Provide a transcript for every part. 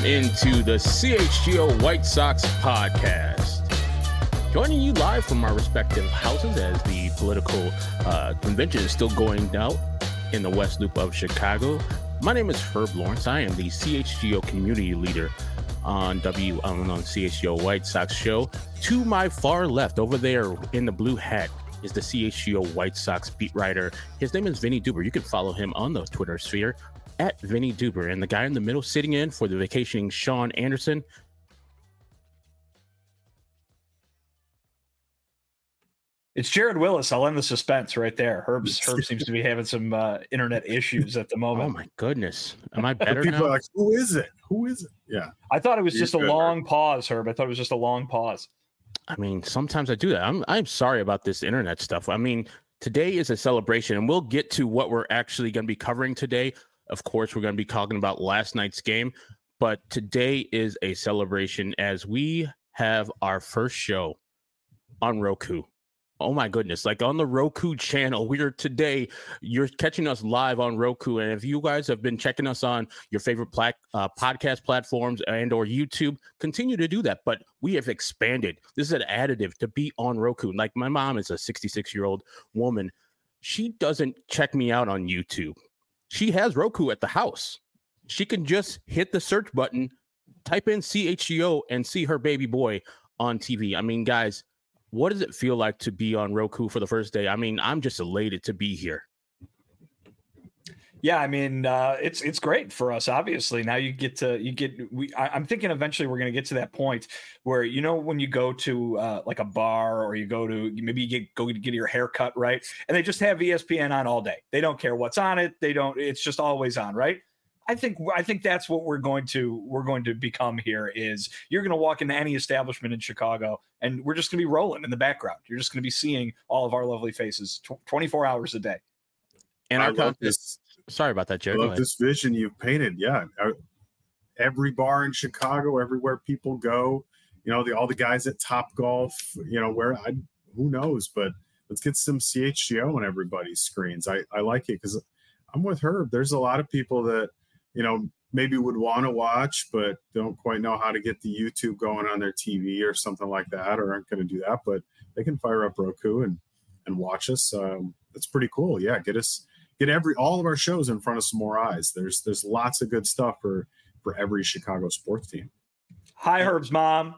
into the CHGO White Sox podcast. Joining you live from our respective houses as the political convention is still going out in the West Loop of Chicago. My name is Herb Lawrence. I am the CHGO community leader on CHGO White Sox show. To my far left, over there in the blue hat, is the CHGO White Sox beat writer. His name is Vinny Duber. You can follow him on the Twitter sphere at Vinny Duber. And the guy in the middle sitting in for the vacationing Sean Anderson. It's Jared Willis. I'll end the suspense right there. Herb seems to be having some internet issues at the moment. Oh my goodness. Am I better People now? are like, who is it? Who is it? Yeah. I thought it was just a long pause, Herb. I thought it was just a long pause. I mean, sometimes I do that. I'm sorry about this internet stuff. I mean, today is a celebration, and we'll get to what we're actually going to be covering today. Of course, we're going to be talking about last night's game, but today is a celebration as we have our first show on Roku. Oh my goodness, like on the Roku channel. You're catching us live on Roku. And if you guys have been checking us on your favorite podcast platforms and or YouTube, continue to do that. But we have expanded. This is an additive to be on Roku. Like my mom is a 66-year-old woman. She doesn't check me out on YouTube. She has Roku at the house. She can just hit the search button, type in CHGO and see her baby boy on TV. I mean, guys, what does it feel like to be on Roku for the first day? I mean, I'm just elated to be here. Yeah, I mean, it's great for us. Obviously, now I'm thinking eventually we're going to get to that point where, you know, when you go to like a bar or you go to go get your hair cut, right, and they just have ESPN on all day. They don't care what's on it. It's just always on, right? I think that's what we're going to become here. Is you're going to walk into any establishment in Chicago and we're just going to be rolling in the background. You're just going to be seeing all of our lovely faces 24 hours a day. And I love this. Sorry about that, Jared. I love this vision you've painted. Yeah. Every bar in Chicago, everywhere people go, you know, all the guys at Top Golf, you know, who knows, but let's get some CHGO on everybody's screens. I like it because I'm with Herb. There's a lot of people that, you know, maybe would want to watch, but don't quite know how to get the YouTube going on their TV or something like that, or aren't going to do that, but they can fire up Roku and watch us. That's pretty cool. Yeah. Get all of our shows in front of some more eyes. There's lots of good stuff for every Chicago sports team. Hi, Herb's mom.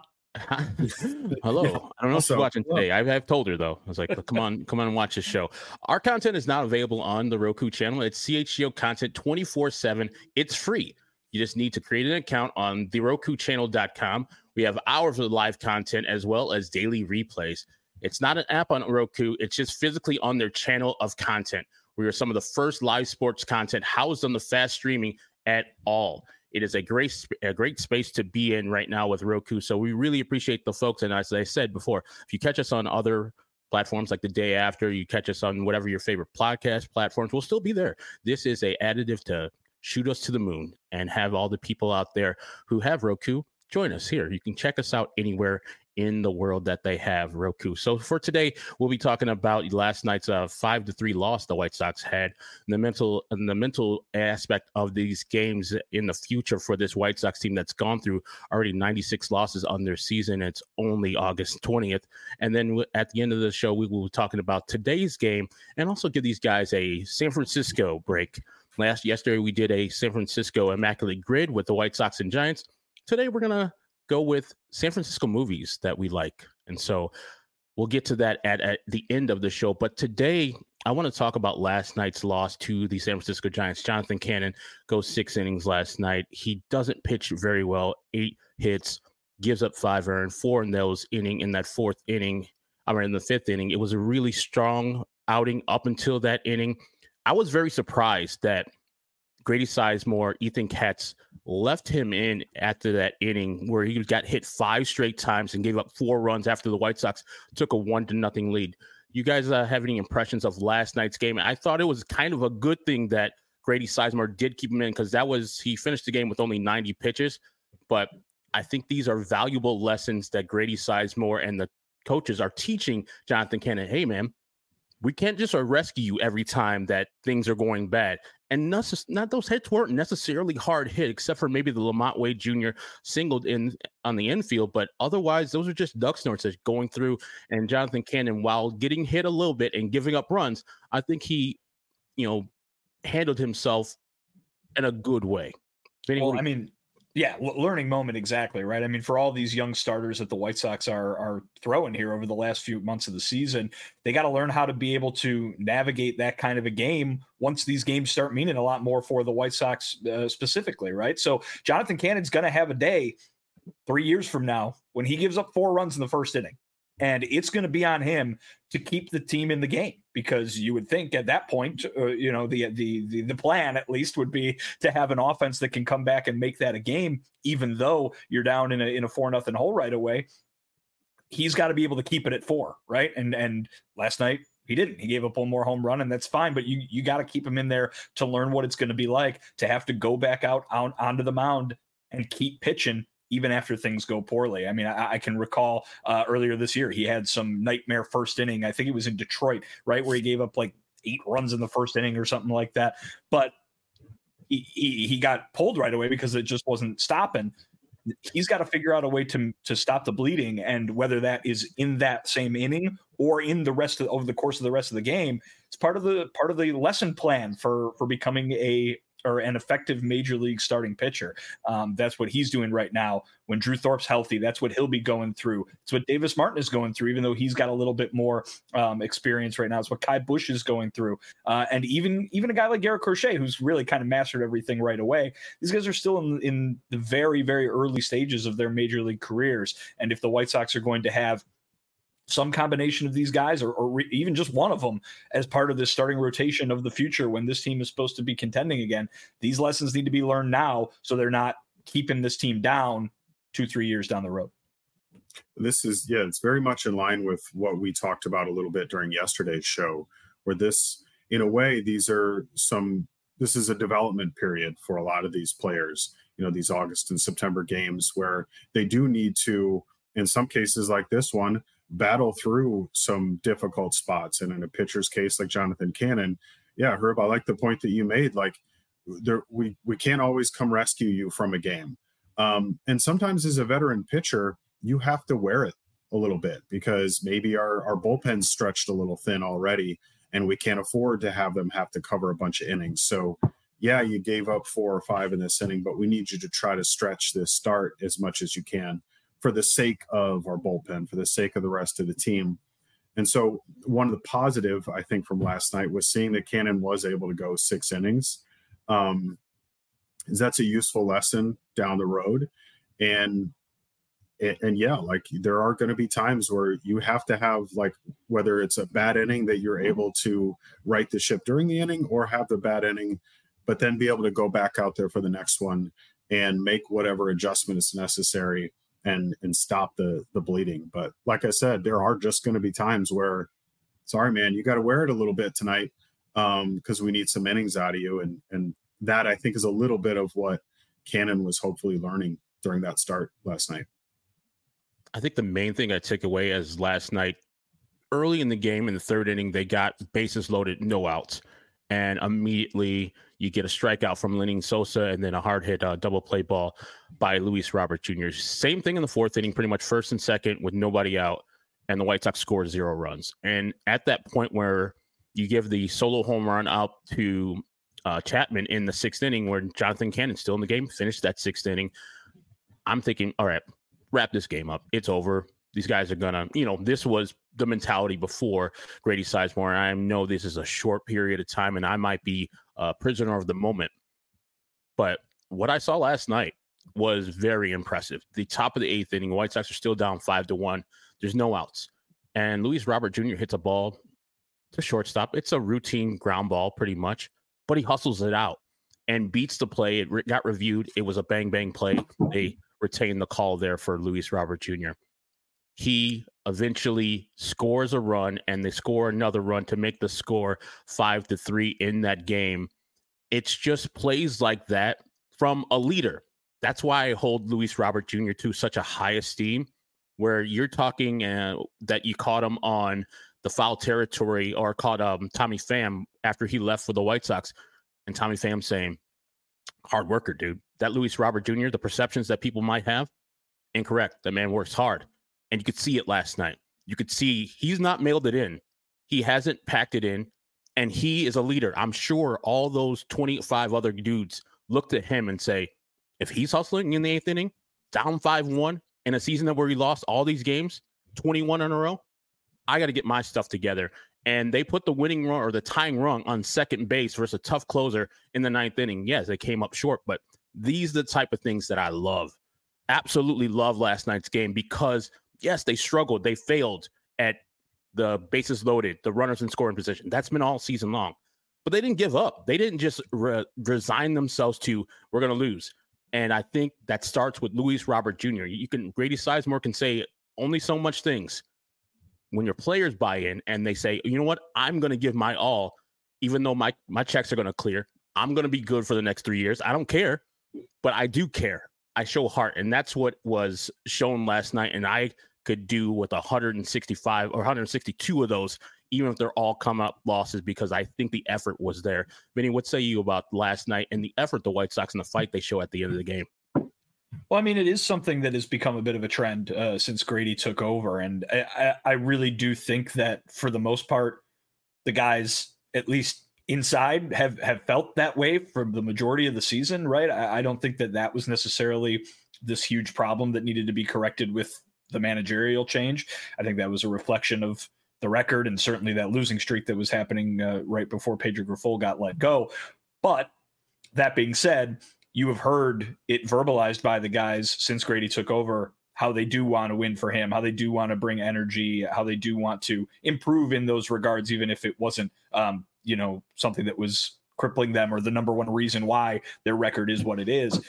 Hello. I don't know if she's watching today. I've told her though. I was like, come on and watch this show. Our content is now available on the Roku channel. It's CHGO content 24/7. It's free. You just need to create an account on therokuchannel.com. We have hours of live content as well as daily replays. It's not an app on Roku. It's just physically on their channel of content. We are some of the first live sports content housed on the fast streaming at all. It is a great space to be in right now with Roku. So we really appreciate the folks. And as I said before, if you catch us on other platforms like the day after, you catch us on whatever your favorite podcast platforms, we'll still be there. This is a additive to shoot us to the moon and have all the people out there who have Roku join us here. You can check us out anywhere in the world that they have Roku. So for today, we'll be talking about last night's 5-3 loss the White Sox had, and the mental aspect of these games in the future for this White Sox team that's gone through already 96 losses on their season. It's only August 20th. And then at the end of the show, we will be talking about today's game and also give these guys a San Francisco break. Yesterday, we did a San Francisco Immaculate Grid with the White Sox and Giants. Today, we're going to go with San Francisco movies that we like. And so we'll get to that at the end of the show. But today, I want to talk about last night's loss to the San Francisco Giants. Jonathan Cannon goes 6 innings last night. He doesn't pitch very well. 8 hits, gives up 5 earned, 4 in those inning. In that in the 5th inning, it was a really strong outing up until that inning. I was very surprised that Grady Sizemore, Ethan Katz left him in after that inning where he got hit 5 straight times and gave up 4 runs after the White Sox took a 1-0 lead. You guys have any impressions of last night's game? I thought it was kind of a good thing that Grady Sizemore did keep him in because he finished the game with only 90 pitches. But I think these are valuable lessons that Grady Sizemore and the coaches are teaching Jonathan Cannon. Hey, man, we can't just rescue you every time that things are going bad. And not those hits weren't necessarily hard hit, except for maybe the Lamont Wade Jr. singled in on the infield. But otherwise, those are just duck snorts that's going through. And Jonathan Cannon, while getting hit a little bit and giving up runs, I think he, handled himself in a good way. Learning moment, exactly, right? I mean, for all these young starters that the White Sox are throwing here over the last few months of the season, they got to learn how to be able to navigate that kind of a game once these games start meaning a lot more for the White Sox specifically, right? So Jonathan Cannon's going to have a day 3 years from now when he gives up 4 runs in the first inning. And it's going to be on him to keep the team in the game, because you would think at that point, the plan at least would be to have an offense that can come back and make that a game, even though you're down in a 4-0 hole right away. He's got to be able to keep it at 4, right? And last night he didn't. He gave up one more home run, and that's fine. But you got to keep him in there to learn what it's going to be like to have to go back out onto the mound and keep pitching even after things go poorly. I mean, I can recall earlier this year, he had some nightmare first inning. I think it was in Detroit, right, where he gave up like 8 runs in the first inning or something like that. But he got pulled right away because it just wasn't stopping. He's got to figure out a way to stop the bleeding, and whether that is in that same inning or in the rest over the course of the rest of the game, it's part of the lesson plan for becoming an effective major league starting pitcher. That's what he's doing right now. When Drew Thorpe's healthy, that's what he'll be going through. It's what Davis Martin is going through, even though he's got a little bit more experience right now. It's what Kai Busch is going through. And even a guy like Garrett Crochet, who's really kind of mastered everything right away. These guys are still in the very, very early stages of their major league careers. And if the White Sox are going to have some combination of these guys, or even just one of them as part of this starting rotation of the future when this team is supposed to be contending again, these lessons need to be learned now so they're not keeping this team down 2-3 years down the road. This is, it's very much in line with what we talked about a little bit during yesterday's show, where this, in a way, this is a development period for a lot of these players, these August and September games where they do need to, in some cases like this one, battle through some difficult spots. And in a pitcher's case like Jonathan Cannon, Herb, I like the point that you made. Like, we can't always come rescue you from a game. And sometimes as a veteran pitcher, you have to wear it a little bit because maybe our bullpen's stretched a little thin already and we can't afford to have them have to cover a bunch of innings. So you gave up 4 or 5 in this inning, but we need you to try to stretch this start as much as you can, for the sake of our bullpen, for the sake of the rest of the team. And so one of the positive, I think, from last night was seeing that Cannon was able to go 6 innings. That's a useful lesson down the road. And like there are going to be times where you have to have, like, whether it's a bad inning that you're able to right the ship during the inning, or have the bad inning, but then be able to go back out there for the next one and make whatever adjustment is necessary and stop the bleeding. But like I said, there are just going to be times where, sorry, man, you got to wear it a little bit tonight because we need some innings out of you. And that, I think, is a little bit of what Cannon was hopefully learning during that start last night. I think the main thing I took away as last night, early in the game in the 3rd inning, they got bases loaded, no outs. And immediately you get a strikeout from Lenyn Sosa and then a hard hit double play ball by Luis Robert Jr. Same thing in the 4th inning, pretty much 1st and 2nd with nobody out, and the White Sox scored 0 runs. And at that point where you give the solo home run out to Chapman in the 6th inning, where Jonathan Cannon's still in the game, finished that 6th inning, I'm thinking, all right, wrap this game up. It's over. These guys are gonna, this was the mentality before Grady Sizemore. I know this is a short period of time and I might be a prisoner of the moment. But what I saw last night was very impressive. The top of the 8th inning, White Sox are still down 5-1. There's no outs. And Luis Robert Jr. hits a ball to shortstop. It's a routine ground ball pretty much, but he hustles it out and beats the play. It got reviewed. It was a bang, bang play. They retained the call there for Luis Robert Jr. He eventually scores a run, and they score another run to make the score 5-3 in that game. It's just plays like that from a leader. That's why I hold Luis Robert Jr. to such a high esteem, where you're talking that you caught him on the foul territory, or called Tommy Pham after he left for the White Sox, and Tommy Pham saying, hard worker, dude. That Luis Robert Jr., the perceptions that people might have, incorrect. That man works hard. And you could see it last night. You could see he's not mailed it in. He hasn't packed it in, and he is a leader. I'm sure all those 25 other dudes looked at him and say, if he's hustling in the 8th inning, down 5-1 in a season where he lost all these games, 21 in a row, I got to get my stuff together. And they put the winning run or the tying run on second base versus a tough closer in the 9th inning. Yes, they came up short, but these are the type of things that I love. Absolutely love last night's game because, yes, they struggled. They failed at the bases loaded, the runners in scoring position. That's been all season long. But they didn't give up. They didn't just resign themselves to, we're going to lose. And I think that starts with Luis Robert Jr. Grady Sizemore can say only so much things. When your players buy in and they say, you know what, I'm going to give my all, even though my checks are going to clear. I'm going to be good for the next 3 years. I don't care, but I do care. I show heart. And that's what was shown last night. And I could do with 165 or 162 of those, even if they're all come up losses, because I think the effort was there. Vinny, what say you about last night and the effort the White Sox and the fight they show at the end of the game? Well, I mean, it is something that has become a bit of a trend since Grady took over. And I really do think that for the most part, the guys, at least inside, have felt that way for the majority of the season, right? I don't think that was necessarily this huge problem that needed to be corrected with the managerial change. I think that was a reflection of the record and certainly that losing streak that was happening right before Pedro Grifol got let go. But that being said, you have heard it verbalized by the guys since Grady took over, how they do want to win for him, how they do want to bring energy, how they do want to improve in those regards, even if it wasn't, something that was crippling them or the number one reason why their record is what it is.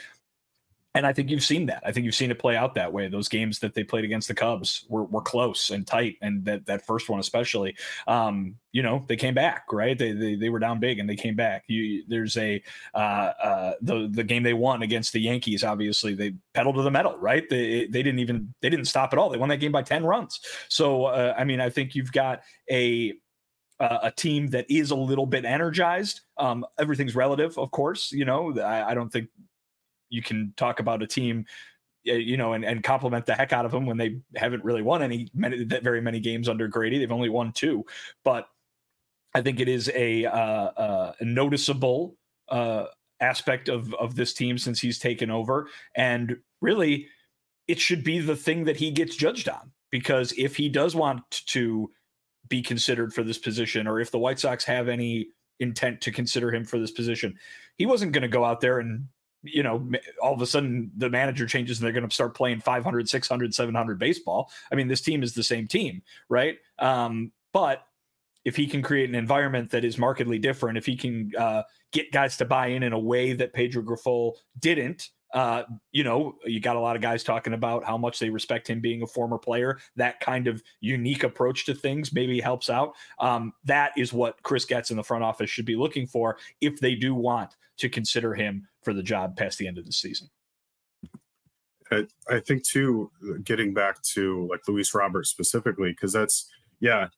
And I think you've seen that. I think you've seen it play out that way. Those games that they played against the Cubs were close and tight, and that first one especially. They came back, right? They were down big and they came back. There's the game they won against the Yankees. Obviously, they pedaled to the metal, right? They didn't stop at all. They won that game by 10 runs. So I think you've got a team that is a little bit energized. Everything's relative, of course. I don't think you can talk about a team, and compliment the heck out of them when they haven't really won very many games under Grady. They've only won 2, but I think it is a noticeable aspect of this team since he's taken over. And really, it should be the thing that he gets judged on, because if he does want to be considered for this position, or if the White Sox have any intent to consider him for this position, he wasn't going to go out there and all of a sudden the manager changes and they're going to start playing 500, 600, 700 baseball. I mean, this team is the same team, right? But if he can create an environment that is markedly different, if he can get guys to buy in a way that Pedro Grifol didn't, you got a lot of guys talking about how much they respect him being a former player. That kind of unique approach to things maybe helps out. That is what Chris Getz in the front office should be looking for if they do want to consider him for the job past the end of the season. I think too, getting back to like Luis Robert specifically, because the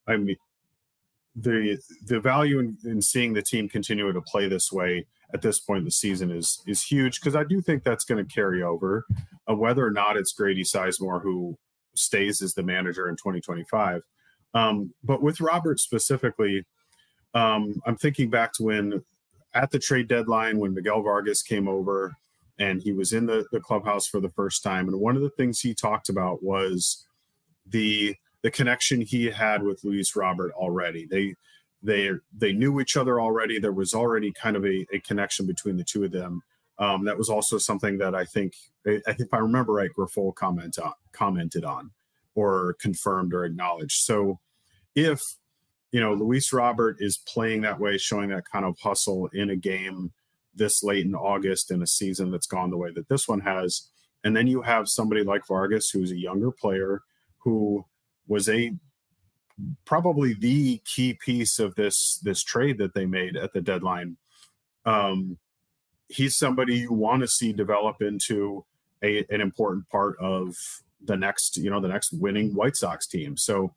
value in seeing the team continue to play this way at this point in the season is huge, because I do think that's going to carry over, whether or not it's Grady Sizemore who stays as the manager in 2025. But with Robert specifically, I'm thinking back to when at the trade deadline, when Miguel Vargas came over and he was in the clubhouse for the first time. And one of the things he talked about was the connection he had with Luis Robert already. They knew each other already. There was already kind of a connection between the two of them. That was also something that I think if I remember right, Grifol commented on or confirmed or acknowledged. So if Luis Robert is playing that way, showing that kind of hustle in a game this late in August in a season that's gone the way that this one has, and then you have somebody like Vargas, who's a younger player, who was probably the key piece of this trade that they made at the deadline. He's somebody you want to see develop into an important part of the next winning White Sox team. So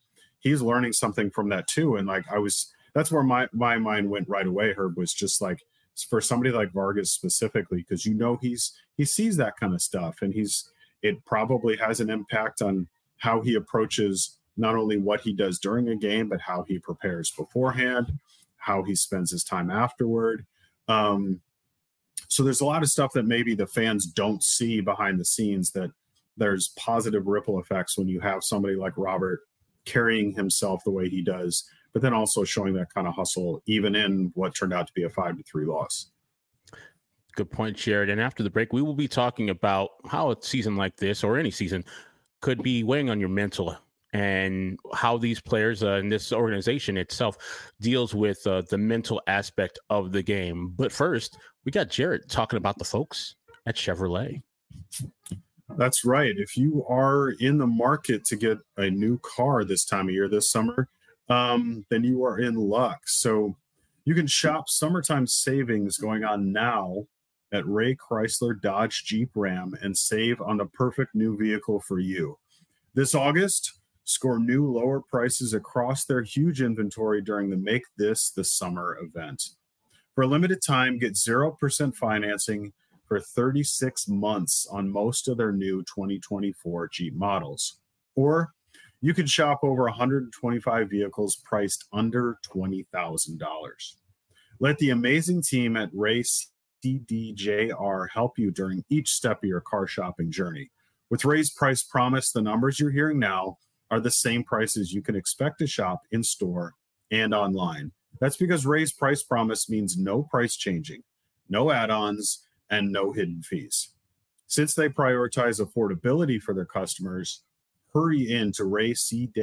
he's learning something from that too. And like that's where my mind went right away, Herb, was just like, for somebody like Vargas specifically, because he sees that kind of stuff, and it probably has an impact on how he approaches not only what he does during a game, but how he prepares beforehand, how he spends his time afterward. So there's a lot of stuff that maybe the fans don't see behind the scenes, that there's positive ripple effects when you have somebody like Robert carrying himself the way he does, but then also showing that kind of hustle, even in what turned out to be a 5-3 loss. Good point, Jared. And after the break, we will be talking about how a season like this, or any season, could be weighing on your mental, and how these players and this organization itself deals with the mental aspect of the game. But first, we got Jared talking about the folks at Chevrolet. That's right. If you are in the market to get a new car this time of year, this summer, then you are in luck. So you can shop summertime savings going on now at Ray Chrysler Dodge Jeep Ram and save on the perfect new vehicle for you. This August, score new lower prices across their huge inventory during the Make This the Summer event. For a limited time, get 0% financing for 36 months on most of their new 2024 Jeep models. Or you can shop over 125 vehicles priced under $20,000. Let the amazing team at Ray CDJR help you during each step of your car shopping journey. With Ray's price promise, the numbers you're hearing now are the same prices you can expect to shop in store and online. That's because Ray's price promise means no price changing, no add-ons, and no hidden fees. Since they prioritize affordability for their customers, hurry in to Ray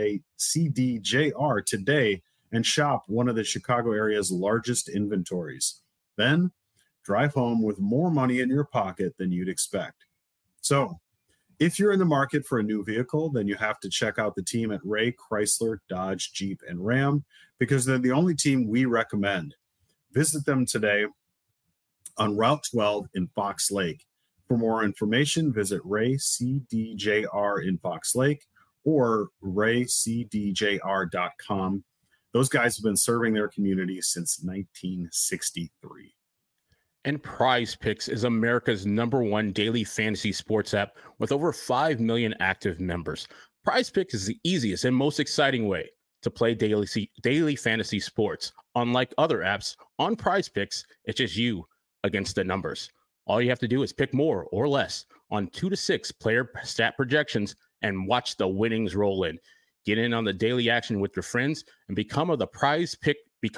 CDJR today and shop one of the Chicago area's largest inventories. Then drive home with more money in your pocket than you'd expect. So, if you're in the market for a new vehicle, then you have to check out the team at Ray Chrysler Dodge Jeep and Ram, because they're the only team we recommend. Visit them today on Route 12 in Fox Lake. For more information, visit Ray CDJR in Fox Lake or raycdjr.com. Those guys have been serving their community since 1963. And Prize Picks is America's #1 daily fantasy sports app with over 5 million active members. Prize Picks is the easiest and most exciting way to play daily fantasy sports. Unlike other apps, on Prize Picks, it's just you against the numbers. All you have to do is pick more or less on 2 to 6 player stat projections and watch the winnings roll in. Get in on the daily action with your friends and become one of the Prize Pick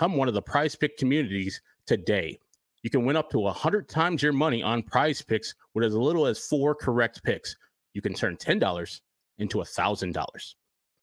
communities today. You can win up to 100 times your money on Prize Picks with as little as 4 correct picks. You can turn $10 into $1,000.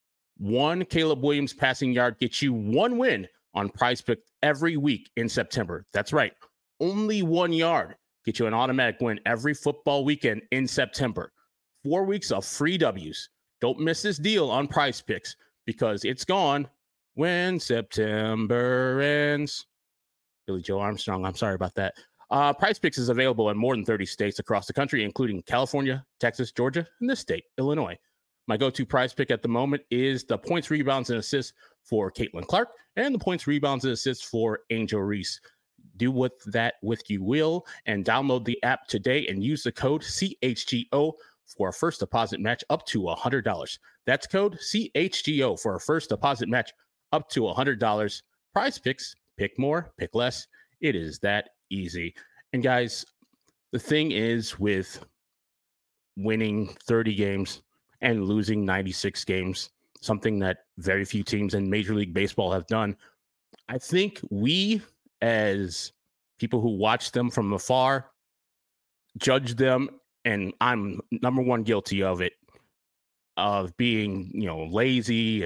One Caleb Williams passing yard gets you 1 win on Prize Picks every week in September. That's right. Only 1 yard gets you an automatic win every football weekend in September. 4 weeks of free W's. Don't miss this deal on Prize Picks, because it's gone when September ends. Billy Joe Armstrong, I'm sorry about that. Prize Picks is available in more than 30 states across the country, including California, Texas, Georgia, and this state, Illinois. My go-to Prize Pick at the moment is the points, rebounds, and assists for Caitlin Clark and the points, rebounds, and assists for Angel Reese. Do with that with you will, and download the app today and use the code CHGO for a first deposit match up to $100. That's code CHGO for a first deposit match up to $100. Prize Picks. Pick more, pick less. It is that easy. And guys, the thing is with winning 30 games and losing 96 games, something that very few teams in Major League Baseball have done, I think we, as people who watch them from afar, judge them, and I'm #1 guilty of it, of being, lazy,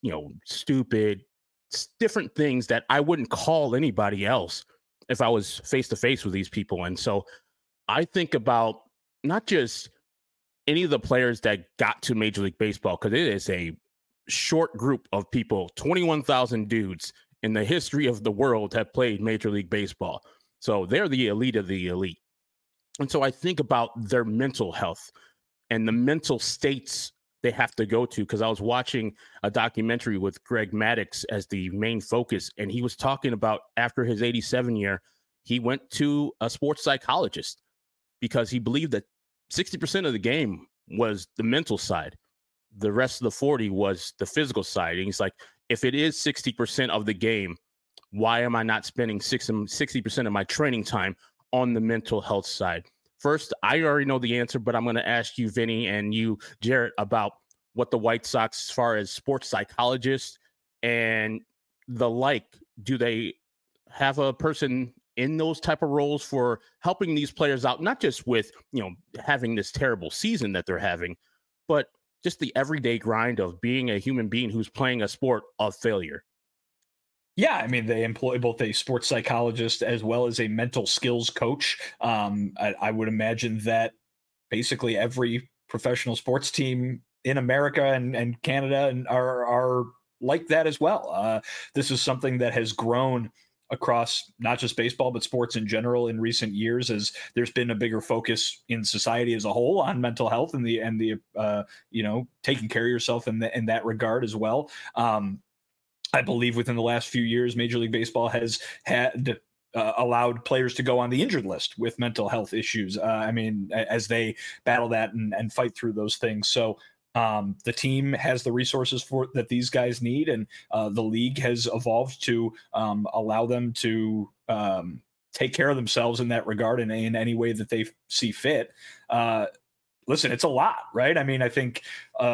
stupid, different things that I wouldn't call anybody else if I was face to face with these people. And so I think about not just any of the players that got to Major League Baseball, because it is a short group of people. 21,000 dudes in the history of the world have played Major League Baseball. So they're the elite of the elite. And so I think about their mental health and the mental states they have to go to. Because I was watching a documentary with Greg Maddux as the main focus, and he was talking about after his 87 year, he went to a sports psychologist because he believed that 60% of the game was the mental side. The rest of the 40 was the physical side. And he's like, if it is 60% of the game, why am I not spending 60% of my training time on the mental health side? First, I already know the answer, but I'm going to ask you, Vinny, and you, Jarrett, about what the White Sox, as far as sports psychologists and the like, do they have a person in those type of roles for helping these players out, not just with, having this terrible season that they're having, but just the everyday grind of being a human being who's playing a sport of failure? Yeah, I mean, they employ both a sports psychologist as well as a mental skills coach. I would imagine that basically every professional sports team in America and Canada and are like that as well. This is something that has grown across not just baseball, but sports in general in recent years, as there's been a bigger focus in society as a whole on mental health and the taking care of yourself in that regard as well. I believe within the last few years, Major League Baseball has had allowed players to go on the injured list with mental health issues. As they battle that and fight through those things. So the team has the resources that these guys need, and the league has evolved to allow them to take care of themselves in that regard and in any way that they see fit. Listen, it's a lot, right? I mean, I think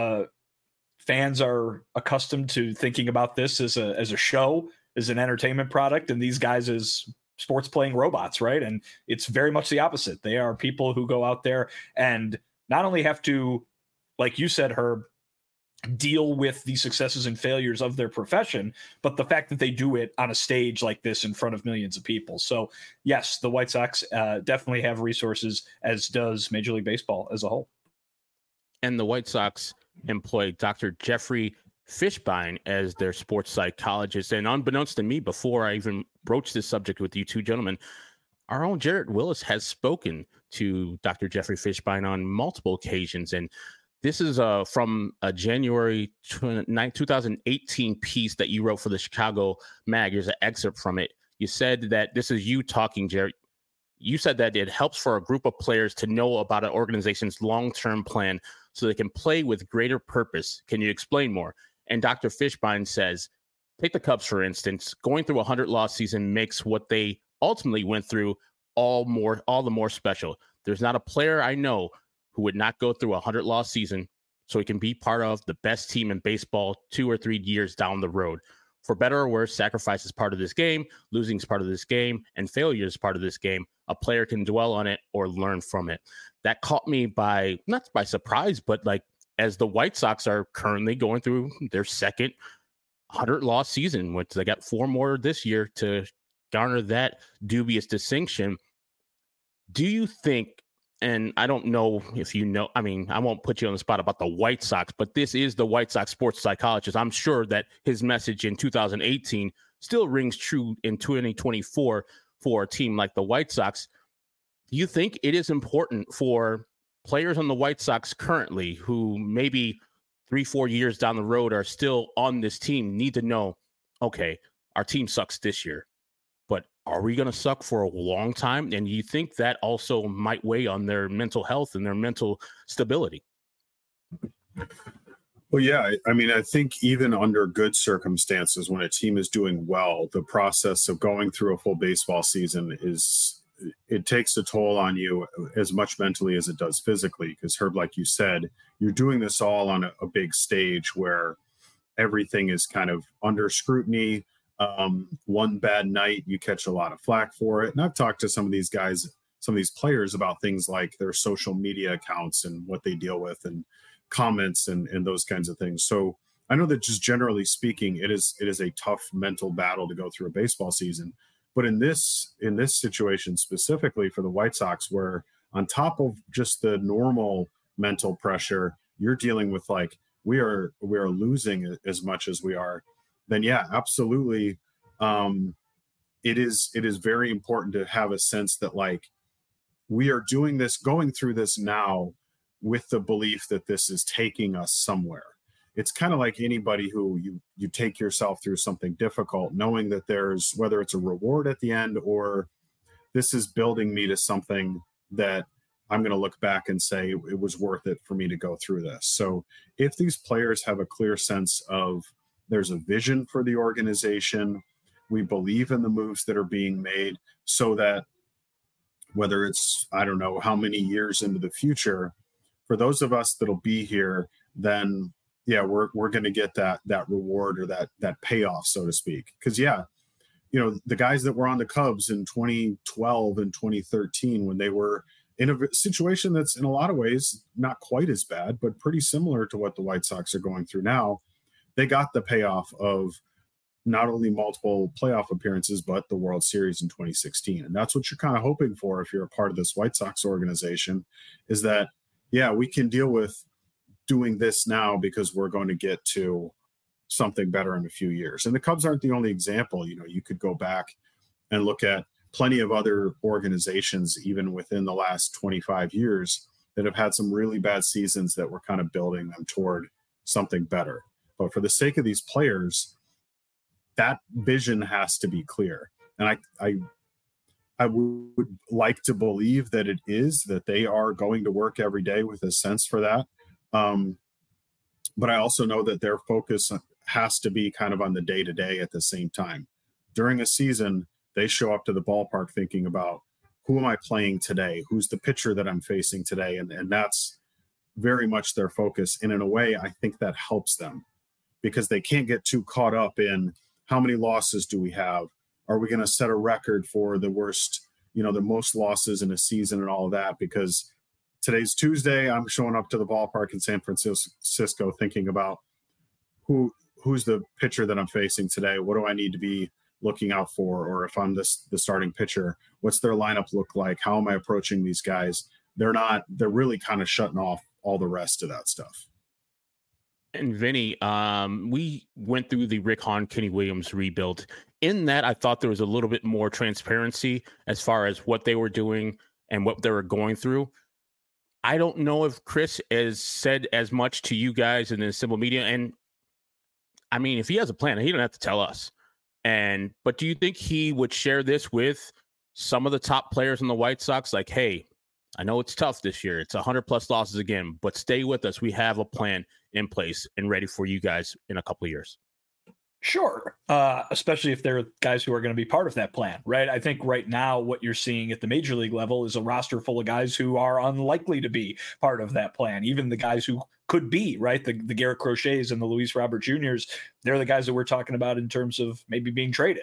fans are accustomed to thinking about this as a show, as an entertainment product, and these guys as sports playing robots, right? And it's very much the opposite. They are people who go out there and not only have to, like you said, Herb, deal with the successes and failures of their profession, but the fact that they do it on a stage like this in front of millions of people. So yes, the White Sox definitely have resources, as does Major League Baseball as a whole. And the White Sox employ Dr. Jeffrey Fishbein as their sports psychologist. And unbeknownst to me, before I even broached this subject with you two gentlemen, our own Jarrett Willis has spoken to Dr. Jeffrey Fishbein on multiple occasions. And this is from a January 9, 2018 piece that you wrote for the Chicago Mag. Here's an excerpt from it. You said that, this is you talking, Jarrett. You said that it helps for a group of players to know about an organization's long-term plan so they can play with greater purpose. Can you explain more? And Dr. Fishbein says, take the Cubs, for instance. Going through a 100-loss season makes what they ultimately went through all the more special. There's not a player I know who would not go through a 100-loss season so he can be part of the best team in baseball 2 or 3 years down the road. For better or worse, sacrifice is part of this game, losing is part of this game, and failure is part of this game. A player can dwell on it or learn from it. That caught me not by surprise, but like, as the White Sox are currently going through their second 100-loss season, which they got 4 more this year to garner that dubious distinction. Do you think, and I don't know if you know, I mean, I won't put you on the spot about the White Sox, but this is the White Sox sports psychologist. I'm sure that his message in 2018 still rings true in 2024 for a team like the White Sox. Do you think it is important for players on the White Sox currently, who maybe 3-4 years down the road are still on this team, need to know, okay, our team sucks this year, but are we going to suck for a long time? And you think that also might weigh on their mental health and their mental stability? Well, yeah. I mean, I think even under good circumstances, when a team is doing well, the process of going through a full baseball season it takes a toll on you as much mentally as it does physically. Because Herb, like you said, you're doing this all on a big stage where everything is kind of under scrutiny. One bad night, you catch a lot of flack for it. And I've talked to some of these guys, some of these players, about things like their social media accounts and what they deal with and comments and those kinds of things. So I know that just generally speaking, it is a tough mental battle to go through a baseball season. But in this situation specifically for the White Sox, where on top of just the normal mental pressure, you're dealing with like, we are losing as much as we are, then yeah, absolutely. It is very important to have a sense that like, we are doing this, going through this now with the belief that this is taking us somewhere. It's kind of like anybody who you take yourself through something difficult, knowing that there's, whether it's a reward at the end or this is building me to something that I'm going to look back and say it was worth it for me to go through this. So if these players have a clear sense of there's a vision for the organization, we believe in the moves that are being made, so that whether it's, I don't know how many years into the future, for those of us that'll be here, then yeah, we're going to get that reward or that payoff, so to speak. Because yeah, you know, the guys that were on the Cubs in 2012 and 2013, when they were in a situation that's in a lot of ways not quite as bad, but pretty similar to what the White Sox are going through now, they got the payoff of not only multiple playoff appearances, but the World Series in 2016. And that's what you're kind of hoping for if you're a part of this White Sox organization, is that, yeah, we can deal with doing this now because we're going to get to something better in a few years. And the Cubs aren't the only example. You know, you could go back and look at plenty of other organizations, even within the last 25 years, that have had some really bad seasons that were kind of building them toward something better. But for the sake of these players, that vision has to be clear. And I would like to believe that it is, that they are going to work every day with a sense for that. But I also know that their focus has to be kind of on the day-to-day at the same time. During a season, they show up to the ballpark thinking about, who am I playing today? Who's the pitcher that I'm facing today? And that's very much their focus. And in a way, I think that helps them, because they can't get too caught up in how many losses do we have? Are we going to set a record for the worst, you know, the most losses in a season and all of that? Because today's Tuesday, I'm showing up to the ballpark in San Francisco thinking about who's the pitcher that I'm facing today? What do I need to be looking out for? Or if I'm the starting pitcher, what's their lineup look like? How am I approaching these guys? They're really kind of shutting off all the rest of that stuff. And Vinny, we went through the Rick Hahn, Kenny Williams rebuild. In that, I thought there was a little bit more transparency as far as what they were doing and what they were going through. I don't know if Chris has said as much to you guys in the Simple Media. And I mean, if he has a plan, he don't have to tell us. But do you think he would share this with some of the top players in the White Sox? Like, hey, I know it's tough this year. It's 100+ losses again, but stay with us. We have a plan in place and ready for you guys in a couple of years. Sure. Especially if they're guys who are going to be part of that plan, right? I think right now what you're seeing at the major league level is a roster full of guys who are unlikely to be part of that plan. Even the guys who could be, right? The Garrett Crochets and the Luis Robert Jr.'s, they're the guys that we're talking about in terms of maybe being traded.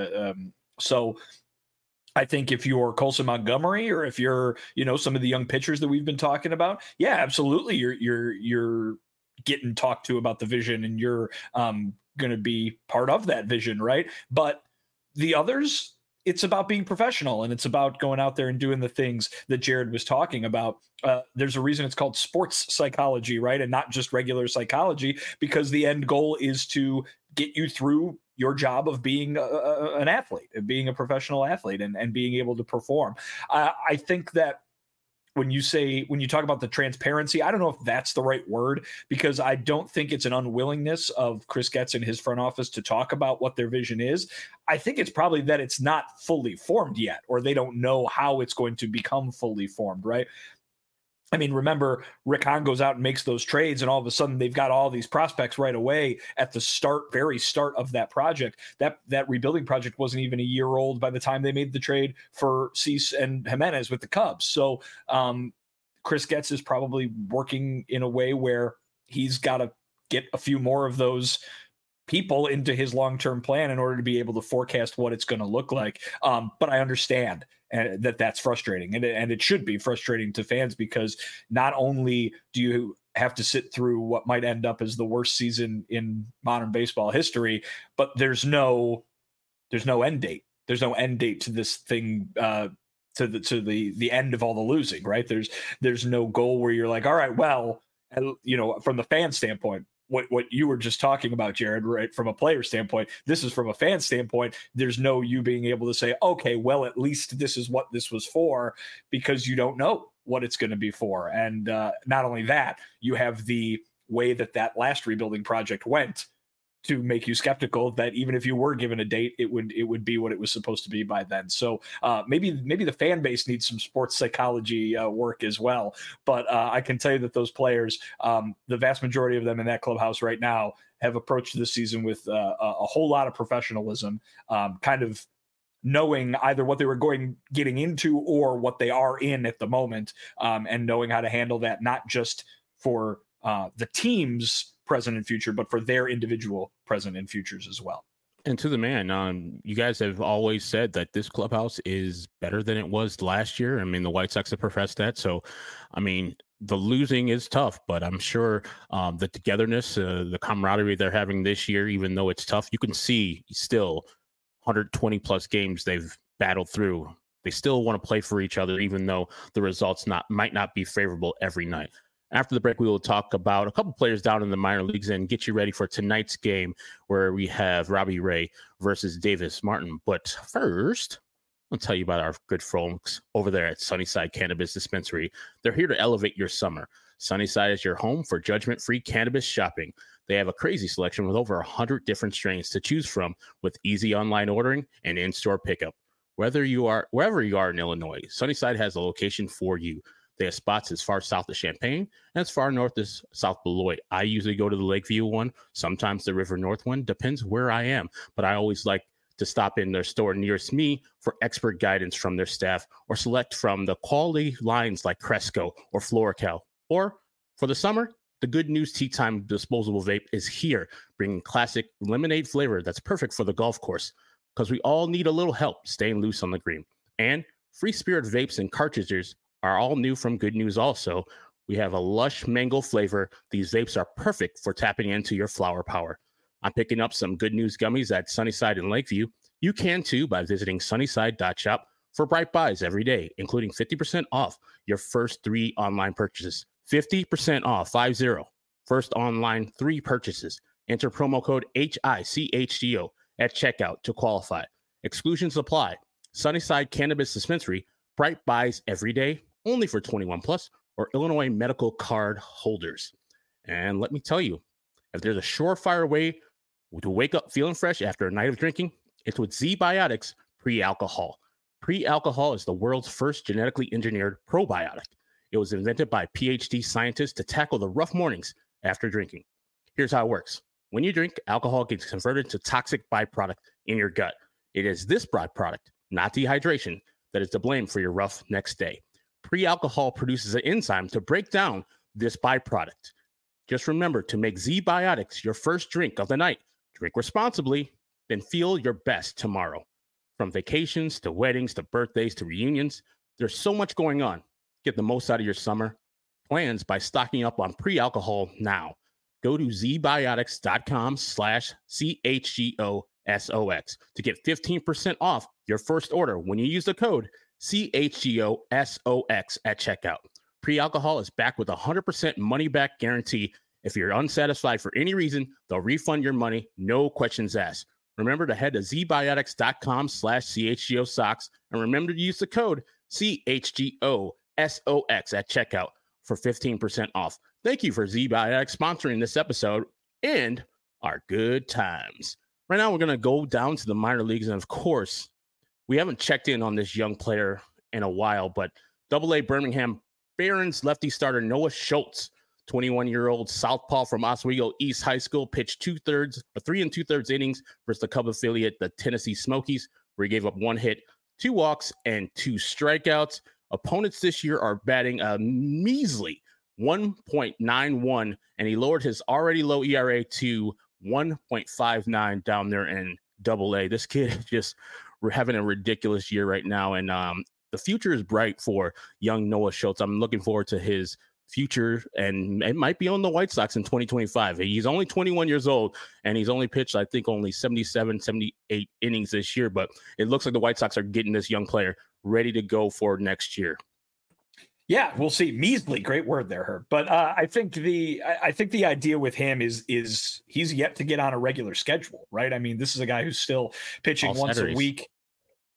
So I think if you're Colson Montgomery, or if you're, you know, some of the young pitchers that we've been talking about, yeah, absolutely. You're getting talked to about the vision, and you're going to be part of that vision, right? But the others, it's about being professional, and it's about going out there and doing the things that Jared was talking about. There's a reason it's called sports psychology, right? And not just regular psychology, because the end goal is to get you through your job of being an athlete, and being a professional athlete, and being able to perform. I think that when you talk about the transparency, I don't know if that's the right word, because I don't think it's an unwillingness of Chris Getz and his front office to talk about what their vision is. I think it's probably that it's not fully formed yet, or they don't know how it's going to become fully formed, right? I mean, remember, Rick Hahn goes out and makes those trades, and all of a sudden they've got all these prospects right away at the very start of that project. That rebuilding project wasn't even a year old by the time they made the trade for Cease and Jimenez with the Cubs. So Chris Getz is probably working in a way where he's got to get a few more of those people into his long-term plan in order to be able to forecast what it's going to look like. But I understand that's frustrating, and it should be frustrating to fans, because not only do you have to sit through what might end up as the worst season in modern baseball history, but there's no end date. There's no end date to this thing, to the end of all the losing, right? There's no goal where you're like, all right, well, you know, from the fan standpoint, what you were just talking about, Jared, right? From a player standpoint, this is from a fan standpoint. There's no you being able to say, okay, well, at least this is what this was for, because you don't know what it's going to be for. And not only that, you have the way that last rebuilding project went to make you skeptical that even if you were given a date, it would be what it was supposed to be by then. So maybe the fan base needs some sports psychology work as well. But I can tell you that those players, the vast majority of them in that clubhouse right now, have approached this season with a whole lot of professionalism, kind of knowing either what they were getting into or what they are in at the moment, and knowing how to handle that, not just for the team's present and future, but for their individual present and futures as well. And to the man, you guys have always said that this clubhouse is better than it was last year. I mean, the White Sox have professed that. So, I mean, the losing is tough, but I'm sure the togetherness, the camaraderie they're having this year, even though it's tough, you can see still 120 plus games they've battled through. They still want to play for each other, even though the results might not be favorable every night. After the break, we will talk about a couple players down in the minor leagues and get you ready for tonight's game where we have Robbie Ray versus Davis Martin. But first, I'll tell you about our good folks over there at Sunnyside Cannabis Dispensary. They're here to elevate your summer. Sunnyside is your home for judgment-free cannabis shopping. They have a crazy selection with over 100 different strains to choose from with easy online ordering and in-store pickup. Wherever you are in Illinois, Sunnyside has a location for you. They have spots as far south as Champaign and as far north as South Beloit. I usually go to the Lakeview one, sometimes the River North one, depends where I am. But I always like to stop in their store nearest me for expert guidance from their staff or select from the quality lines like Cresco or Florical. Or for the summer, the Good News Tea Time disposable vape is here, bringing classic lemonade flavor that's perfect for the golf course because we all need a little help staying loose on the green. And Free Spirit vapes and cartridges are all new from Good News also. We have a lush mango flavor. These vapes are perfect for tapping into your flower power. I'm picking up some Good News gummies at Sunnyside and Lakeview. You can too by visiting sunnyside.shop for bright buys every day, including 50% off your first 3 online purchases. 50% off, 50. First online 3 purchases. Enter promo code HICHGO at checkout to qualify. Exclusions apply. Sunnyside Cannabis Dispensary, bright buys every day, only for 21 plus or Illinois medical card holders. And let me tell you, if there's a surefire way to wake up feeling fresh after a night of drinking, it's with Z-Biotics Pre-Alcohol. Pre-Alcohol is the world's first genetically engineered probiotic. It was invented by PhD scientists to tackle the rough mornings after drinking. Here's how it works. When you drink, alcohol gets converted to toxic byproduct in your gut. It is this byproduct, not dehydration, that is to blame for your rough next day. Pre-alcohol produces an enzyme to break down this byproduct. Just remember to make Z-Biotics your first drink of the night. Drink responsibly, then feel your best tomorrow. From vacations to weddings to birthdays to reunions, there's so much going on. Get the most out of your summer plans by stocking up on pre-alcohol now. Go to zbiotics.com/CHGOSOX to get 15% off your first order when you use the code CHGOSOX at checkout. Pre-alcohol is backed with a 100% money-back guarantee. If you're unsatisfied for any reason, they'll refund your money, no questions asked. Remember to head to zbiotics.com/CHGOSOX and remember to use the code CHGOSOX at checkout for 15% off. Thank you for Z-Biotics sponsoring this episode and our good times. Right now, we're going to go down to the minor leagues. And of course, we haven't checked in on this young player in a while, but AA Birmingham Barons lefty starter Noah Schultz, 21-year-old southpaw from Oswego East High School, pitched 3 2/3 innings versus the Cub affiliate, the Tennessee Smokies, where he gave up 1 hit, 2 walks, and 2 strikeouts. Opponents this year are batting a measly 1.91, and he lowered his already low ERA to 1.59 down there in AA. This kid just having a ridiculous year right now, and the future is bright for young Noah Schultz. I'm looking forward to his future, and it might be on the White Sox in 2025. He's only 21 years old, and he's only pitched, I think, only 77, 78 innings this year, but it looks like the White Sox are getting this young player ready to go for next year. Yeah, we'll see. Measly, great word there, Herb. But I think the idea with him is he's yet to get on a regular schedule, right? I mean, this is a guy who's still pitching once a week.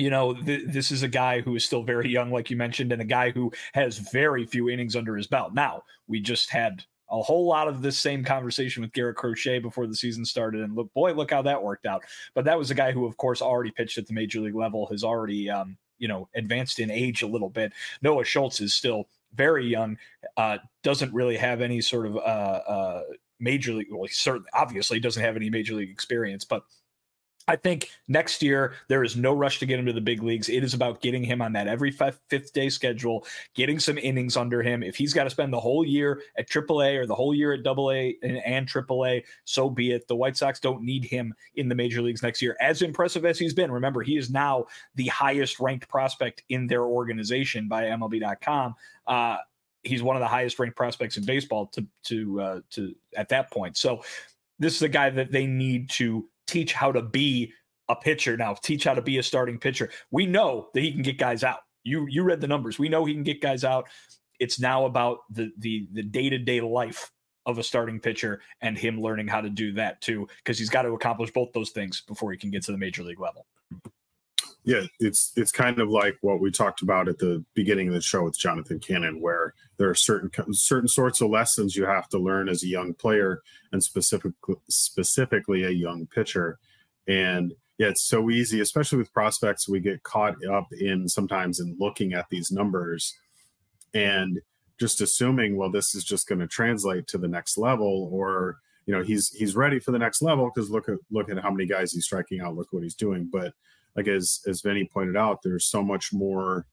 this is a guy who is still very young, like you mentioned, and a guy who has very few innings under his belt. Now, we just had a whole lot of this same conversation with Garrett Crochet before the season started, and look how that worked out. But that was a guy who, of course, already pitched at the major league level, has already, advanced in age a little bit. Noah Schultz is still very young, doesn't really have any sort of major league. Well, he certainly, obviously, doesn't have any major league experience, but I think next year there is no rush to get him to the big leagues. It is about getting him on that every fifth day schedule, getting some innings under him. If he's got to spend the whole year at AAA or the whole year at AA and AAA, so be it. The White Sox don't need him in the major leagues next year. As impressive as he's been, remember, he is now the highest ranked prospect in their organization by MLB.com. He's one of the highest ranked prospects in baseball to at that point. So this is a guy that they need to teach how to be a pitcher now, teach how to be a starting pitcher. We know that he can get guys out. You read the numbers. We know he can get guys out. It's now about the day-to-day life of a starting pitcher and him learning how to do that too, because he's got to accomplish both those things before he can get to the major league level. Yeah, it's kind of like what we talked about at the beginning of the show with Jonathan Cannon, where there are certain sorts of lessons you have to learn as a young player and specifically a young pitcher. And yeah, it's so easy, especially with prospects. We get caught up in sometimes in looking at these numbers and just assuming, well, this is just going to translate to the next level, or he's ready for the next level because look at how many guys he's striking out. Look what he's doing, but like as Vinny pointed out, there's so much more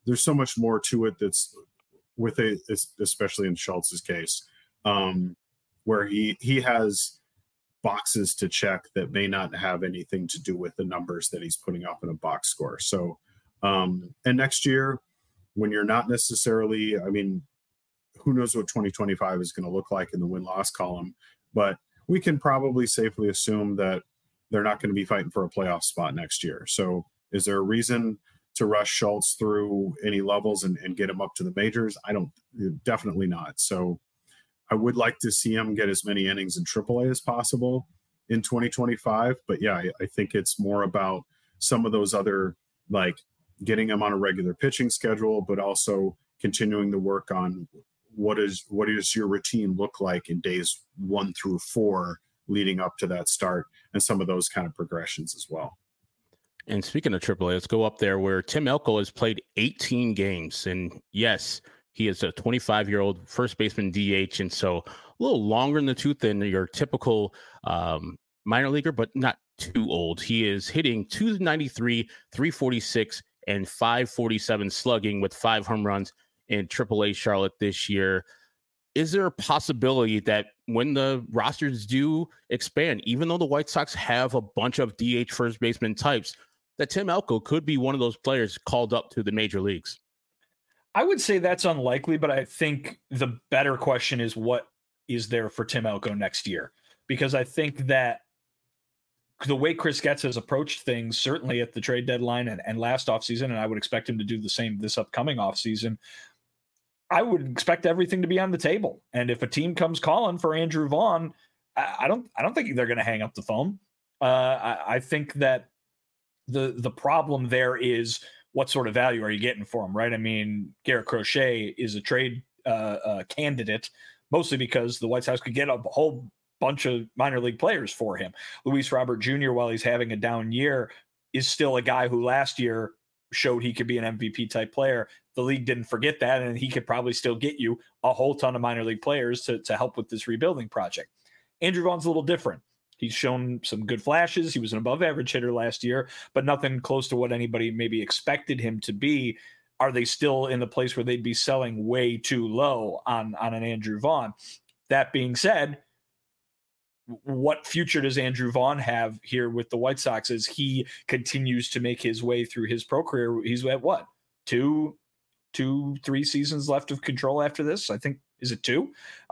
to it that's with it, especially in Schultz's case, where he has boxes to check that may not have anything to do with the numbers that he's putting up in a box score. So, and next year, when you're not necessarily, who knows what 2025 is going to look like in the win-loss column, but we can probably safely assume that they're not going to be fighting for a playoff spot next year. So is there a reason to rush Schultz through any levels and get him up to the majors? Definitely not. So I would like to see him get as many innings in AAA as possible in 2025. But yeah, I think it's more about some of those other, like getting him on a regular pitching schedule, but also continuing to work on what does your routine look like in days 1 through 4 leading up to that start, and some of those kind of progressions as well. And speaking of AAA, let's go up there where Tim Elko has played 18 games. And yes, he is a 25-year-old first baseman DH. And so a little longer in the tooth than your typical minor leaguer, but not too old. He is hitting 293, 346, and 547 slugging with 5 home runs in AAA Charlotte this year. Is there a possibility that when the rosters do expand, even though the White Sox have a bunch of DH first baseman types, that Tim Elko could be one of those players called up to the major leagues? I would say that's unlikely, but I think the better question is what is there for Tim Elko next year? Because I think that the way Chris Getz has approached things, certainly at the trade deadline and last offseason, and I would expect him to do the same this upcoming offseason, I would expect everything to be on the table. And if a team comes calling for Andrew Vaughn, I don't think they're going to hang up the phone. I think that the problem there is what sort of value are you getting for him, right? Garrett Crochet is a trade candidate, mostly because the White Sox could get a whole bunch of minor league players for him. Luis Robert Jr., while he's having a down year, is still a guy who last year showed he could be an MVP type player. The league didn't forget that, and he could probably still get you a whole ton of minor league players to help with this rebuilding project. Andrew Vaughn's a little different. He's shown some good flashes. He was an above average hitter last year, but nothing close to what anybody maybe expected him to be. Are they still in the place where they'd be selling way too low on an Andrew Vaughn? That being said, what future does Andrew Vaughn have here with the White Sox as he continues to make his way through his pro career? He's at what? 3 seasons left of control after this. I think, is it 2?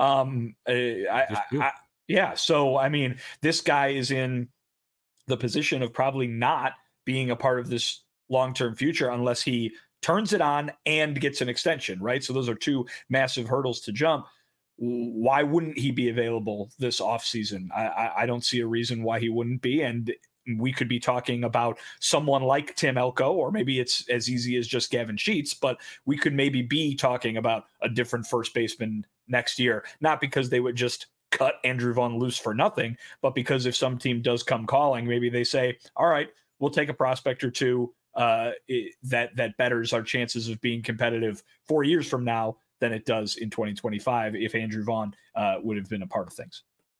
Yeah. So, this guy is in the position of probably not being a part of this long-term future unless he turns it on and gets an extension, right? So those are 2 massive hurdles to jump. Why wouldn't he be available this offseason? I don't see a reason why he wouldn't be. And we could be talking about someone like Tim Elko, or maybe it's as easy as just Gavin Sheets, but we could maybe be talking about a different first baseman next year, not because they would just cut Andrew Vaughn loose for nothing, but because if some team does come calling, maybe they say, all right, we'll take a prospect or two that betters our chances of being competitive 4 years from now than it does in 2025 if Andrew Vaughn would have been a part of things.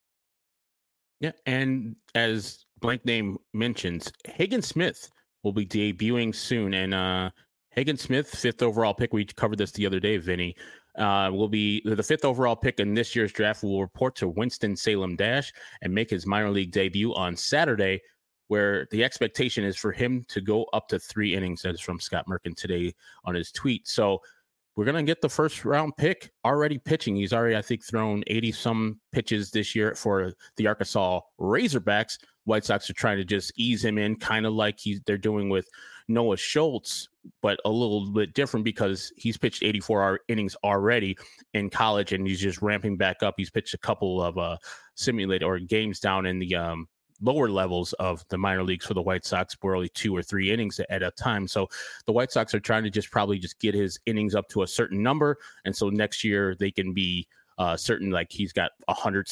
Yeah, and as Blank Name mentions, Hagen Smith will be debuting soon, and Hagen Smith, 5th overall pick, we covered this the other day, Vinny, will be the 5th overall pick in this year's draft, will report to Winston-Salem Dash and make his minor league debut on Saturday, where the expectation is for him to go up to 3 innings. That is from Scott Merkin today on his tweet. So we're going to get the first round pick already pitching. He's already, I think, thrown 80 some pitches this year for the Arkansas Razorbacks. White Sox are trying to just ease him in, kind of like they're doing with Noah Schultz, but a little bit different because he's pitched 84 innings already in college and he's just ramping back up. He's pitched a couple of simulated or games down in the lower levels of the minor leagues for the White Sox, were only 2 or 3 innings at a time. So the White Sox are trying to probably get his innings up to a certain number. And so next year they can be certain, like he's got 100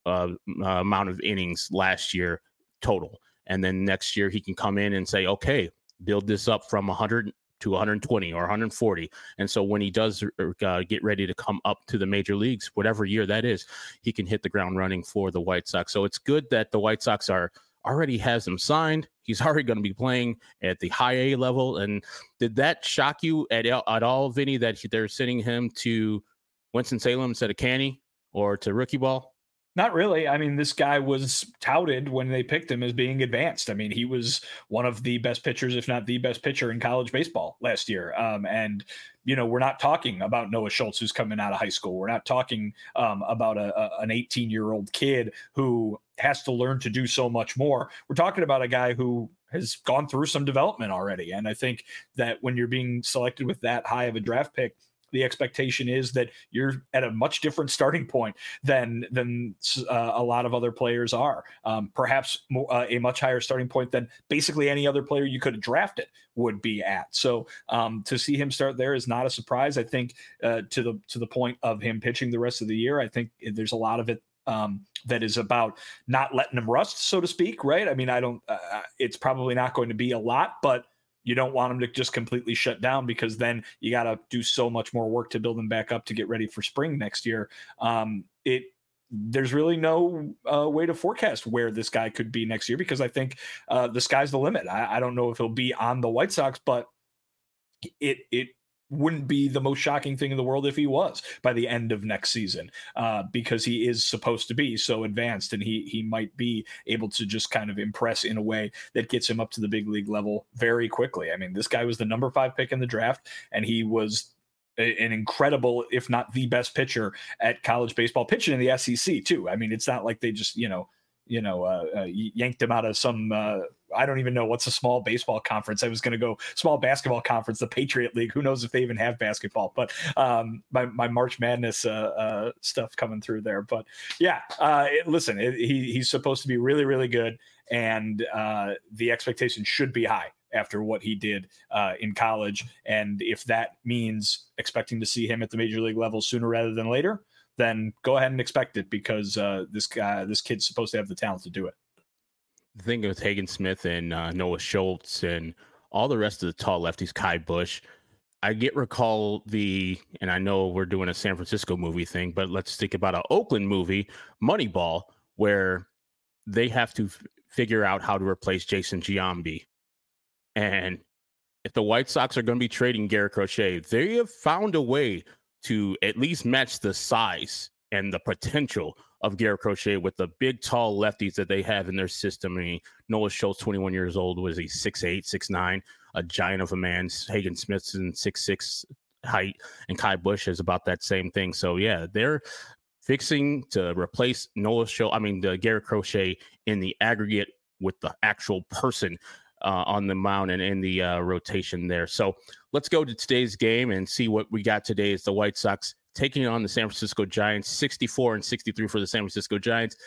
amount of innings last year total. And then next year he can come in and say, okay, build this up from 100 to 120 or 140. And so when he does get ready to come up to the major leagues, whatever year that is, he can hit the ground running for the White Sox. So it's good that the White Sox already has him signed. He's already going to be playing at the high A level. And did that shock you at all, Vinny, that they're sending him to Winston-Salem instead of Canny or to rookie ball? Not really. I mean, this guy was touted when they picked him as being advanced. I mean, he was one of the best pitchers, if not the best pitcher in college baseball last year. And, we're not talking about Noah Schultz, who's coming out of high school. We're not talking about an 18-year-old kid who has to learn to do so much more. We're talking about a guy who has gone through some development already. And I think that when you're being selected with that high of a draft pick, the expectation is that you're at a much different starting point than a lot of other players are. Perhaps a much higher starting point than basically any other player you could have drafted would be at. So to see him start there is not a surprise. I think to the point of him pitching the rest of the year, I think there's a lot of it that is about not letting him rust, so to speak. Right? I mean, it's probably not going to be a lot, but you don't want him to just completely shut down because then you got to do so much more work to build him back up to get ready for spring next year. There's really no way to forecast where this guy could be next year because I think the sky's the limit. I don't know if he'll be on the White Sox, but it wouldn't be the most shocking thing in the world if he was by the end of next season because he is supposed to be so advanced and he might be able to just kind of impress in a way that gets him up to the big league level very quickly. I mean, this guy was the number 5 pick in the draft and he was an incredible, if not the best pitcher at college baseball, pitching in the SEC too. I mean, it's not like they just, yanked him out of some, I don't even know what's a small baseball conference. I was going to go small basketball conference, the Patriot League. Who knows if they even have basketball, but my March Madness stuff coming through there. But yeah, listen, he's supposed to be really, really good. And the expectation should be high after what he did in college. And if that means expecting to see him at the major league level sooner rather than later, then go ahead and expect it because this kid's supposed to have the talent to do it. The thing with Hagen Smith and Noah Schultz and all the rest of the tall lefties, Kai Bush, I recall and I know we're doing a San Francisco movie thing, but let's think about an Oakland movie, Moneyball, where they have to figure out how to replace Jason Giambi. And if the White Sox are going to be trading Garrett Crochet, they have found a way to at least match the size and the potential of Garrett Crochet with the big, tall lefties that they have in their system. I mean, Noah Schultz, 21 years old, was he 6'8", 6'9", a giant of a man. Hagen Smith's in 6'6" height, and Kai Bush is about that same thing. So, yeah, they're fixing to replace the Garrett Crochet in the aggregate with the actual person on the mound and in the rotation there. So let's go to today's game and see what we got today. Is the White Sox taking on the San Francisco Giants. 64-63 for the San Francisco Giants.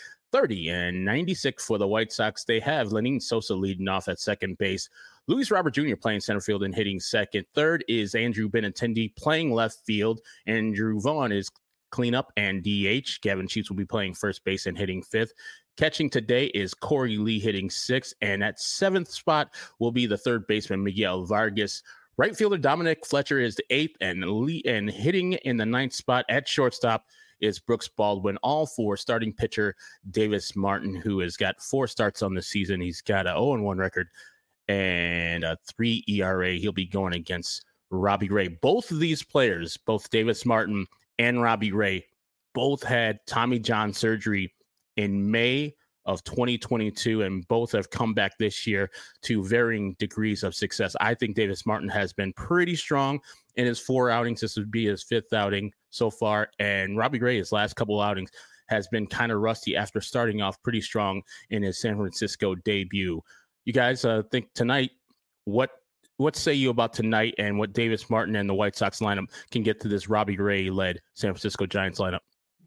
30-96 for the White Sox. They have Lenyn Sosa leading off at second base. Luis Robert Jr. playing center field and hitting second. Third is Andrew Benintendi playing left field. Andrew Vaughn is cleanup and DH. Gavin Sheets will be playing first base and hitting fifth. Catching today is Corey Lee hitting sixth. And at seventh spot will be the third baseman, Miguel Vargas. Right fielder Dominic Fletcher is the eighth, and hitting in the ninth spot at shortstop is Brooks Baldwin. All four starting pitcher Davis Martin, who has got 4 starts on the season. He's got a 0-1 record and a 3 ERA. He'll be going against Robbie Ray. Both of these players, both Davis Martin and Robbie Ray, both had Tommy John surgery in May of 2022, and both have come back this year to varying degrees of success. I think Davis Martin has been pretty strong in his 4 outings. This would be his 5th outing so far, and Robbie Ray, his last couple outings, has been kind of rusty after starting off pretty strong in his San Francisco debut. You guys think tonight, what say you about tonight and what Davis Martin and the White Sox lineup can get to this Robbie Ray-led San Francisco Giants lineup?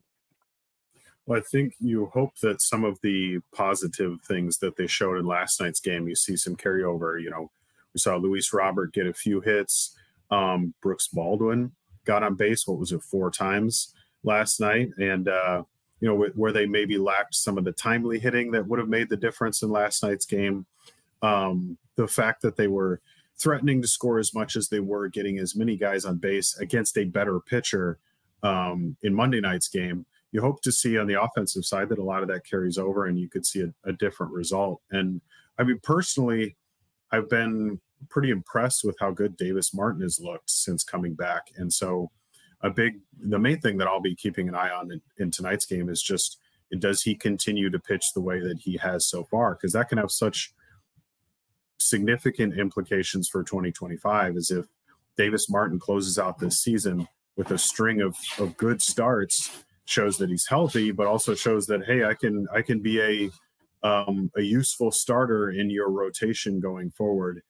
Well, I think you hope that some of the positive things that they showed in last night's game, you see some carryover. You know, we saw Luis Robert get a few hits. Brooks Baldwin got on base, 4 times last night? And, you know, where they maybe lacked some of the timely hitting that would have made the difference in last night's game. The fact that they were threatening to score as much as they were, getting as many guys on base against a better pitcher in Monday night's game. You hope to see on the offensive side that a lot of that carries over and you could see a different result. And I mean, personally, I've been pretty impressed with how good Davis Martin has looked since coming back. And so the main thing that I'll be keeping an eye on in tonight's game is just, does he continue to pitch the way that he has so far? Because that can have such significant implications for 2025 as if Davis Martin closes out this season with a string of good starts, shows that he's healthy, but also shows that, hey, I can be a useful starter in your rotation going forward.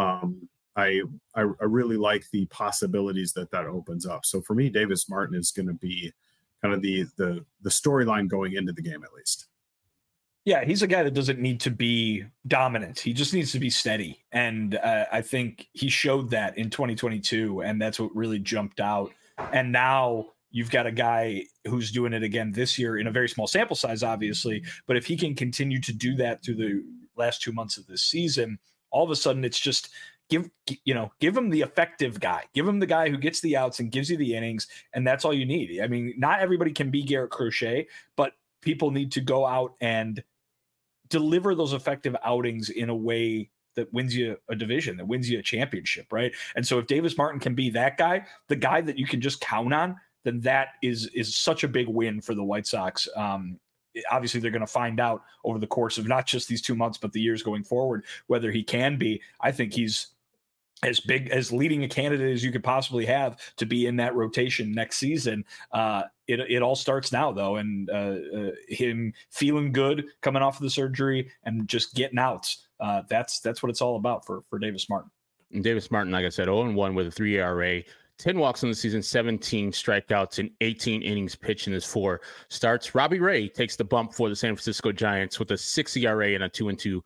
I really like the possibilities that opens up. So for me, Davis Martin is going to be kind of the storyline going into the game, at least. Yeah, he's a guy that doesn't need to be dominant. He just needs to be steady. And I think he showed that in 2022, and that's what really jumped out. And now you've got a guy who's doing it again this year in a very small sample size, obviously. But if he can continue to do that through the last 2 months of this season, all of a sudden it's just give him the effective guy. Give him the guy who gets the outs and gives you the innings, and that's all you need. I mean, not everybody can be Garrett Crochet, but people need to go out and deliver those effective outings in a way that wins you a division, that wins you a championship, right? And so if Davis Martin can be that guy, the guy that you can just count on, then that is such a big win for the White Sox. Obviously, they're going to find out over the course of not just these 2 months, but the years going forward, whether he can be. I think he's as big as leading a candidate as you could possibly have to be in that rotation next season. It all starts now, though, and him feeling good coming off of the surgery and just getting outs. That's what it's all about for Davis Martin. And Davis Martin, like I said, 0-1 with a 3 ERA. 10 walks in the season, 17 strikeouts, and 18 innings pitched in his 4 starts. Robbie Ray takes the bump for the San Francisco Giants with a 6 ERA and a 2-2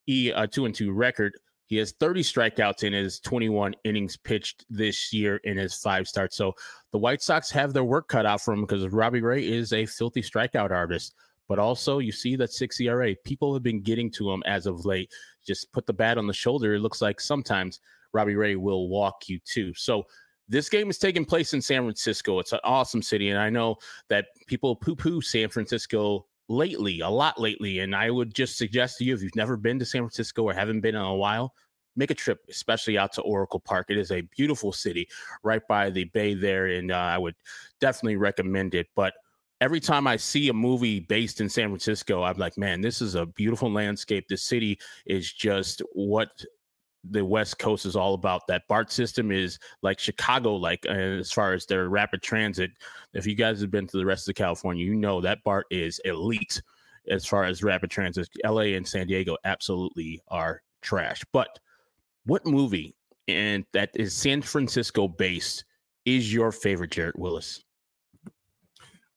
record. He has 30 strikeouts in his 21 innings pitched this year in his 5 starts. So the White Sox have their work cut out for him because Robbie Ray is a filthy strikeout artist. But also, you see that 6 ERA. People have been getting to him as of late. Just put the bat on the shoulder. It looks like sometimes Robbie Ray will walk you too. So this game is taking place in San Francisco. It's an awesome city, and I know that people poo-poo San Francisco a lot lately, and I would just suggest to you, if you've never been to San Francisco or haven't been in a while, make a trip, especially out to Oracle Park. It is a beautiful city right by the bay there, and I would definitely recommend it. But every time I see a movie based in San Francisco, I'm like, man, this is a beautiful landscape. The city is just what the West Coast is all about. That BART system is like Chicago, as far as their rapid transit. If you guys have been to the rest of California, you know that BART is elite as far as rapid transit. LA and San Diego absolutely are trash. But what movie and that is San Francisco based is your favorite, Jarrett Willis?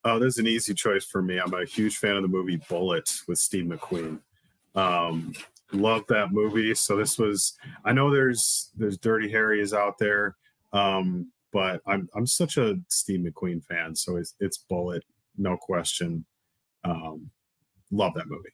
Oh, there's an easy choice for me. I'm a huge fan of the movie Bullitt with Steve McQueen. Love that movie. So this was, I know there's Dirty Harry is out there, but I'm such a Steve McQueen fan, so it's Bullitt, no question. Love that movie.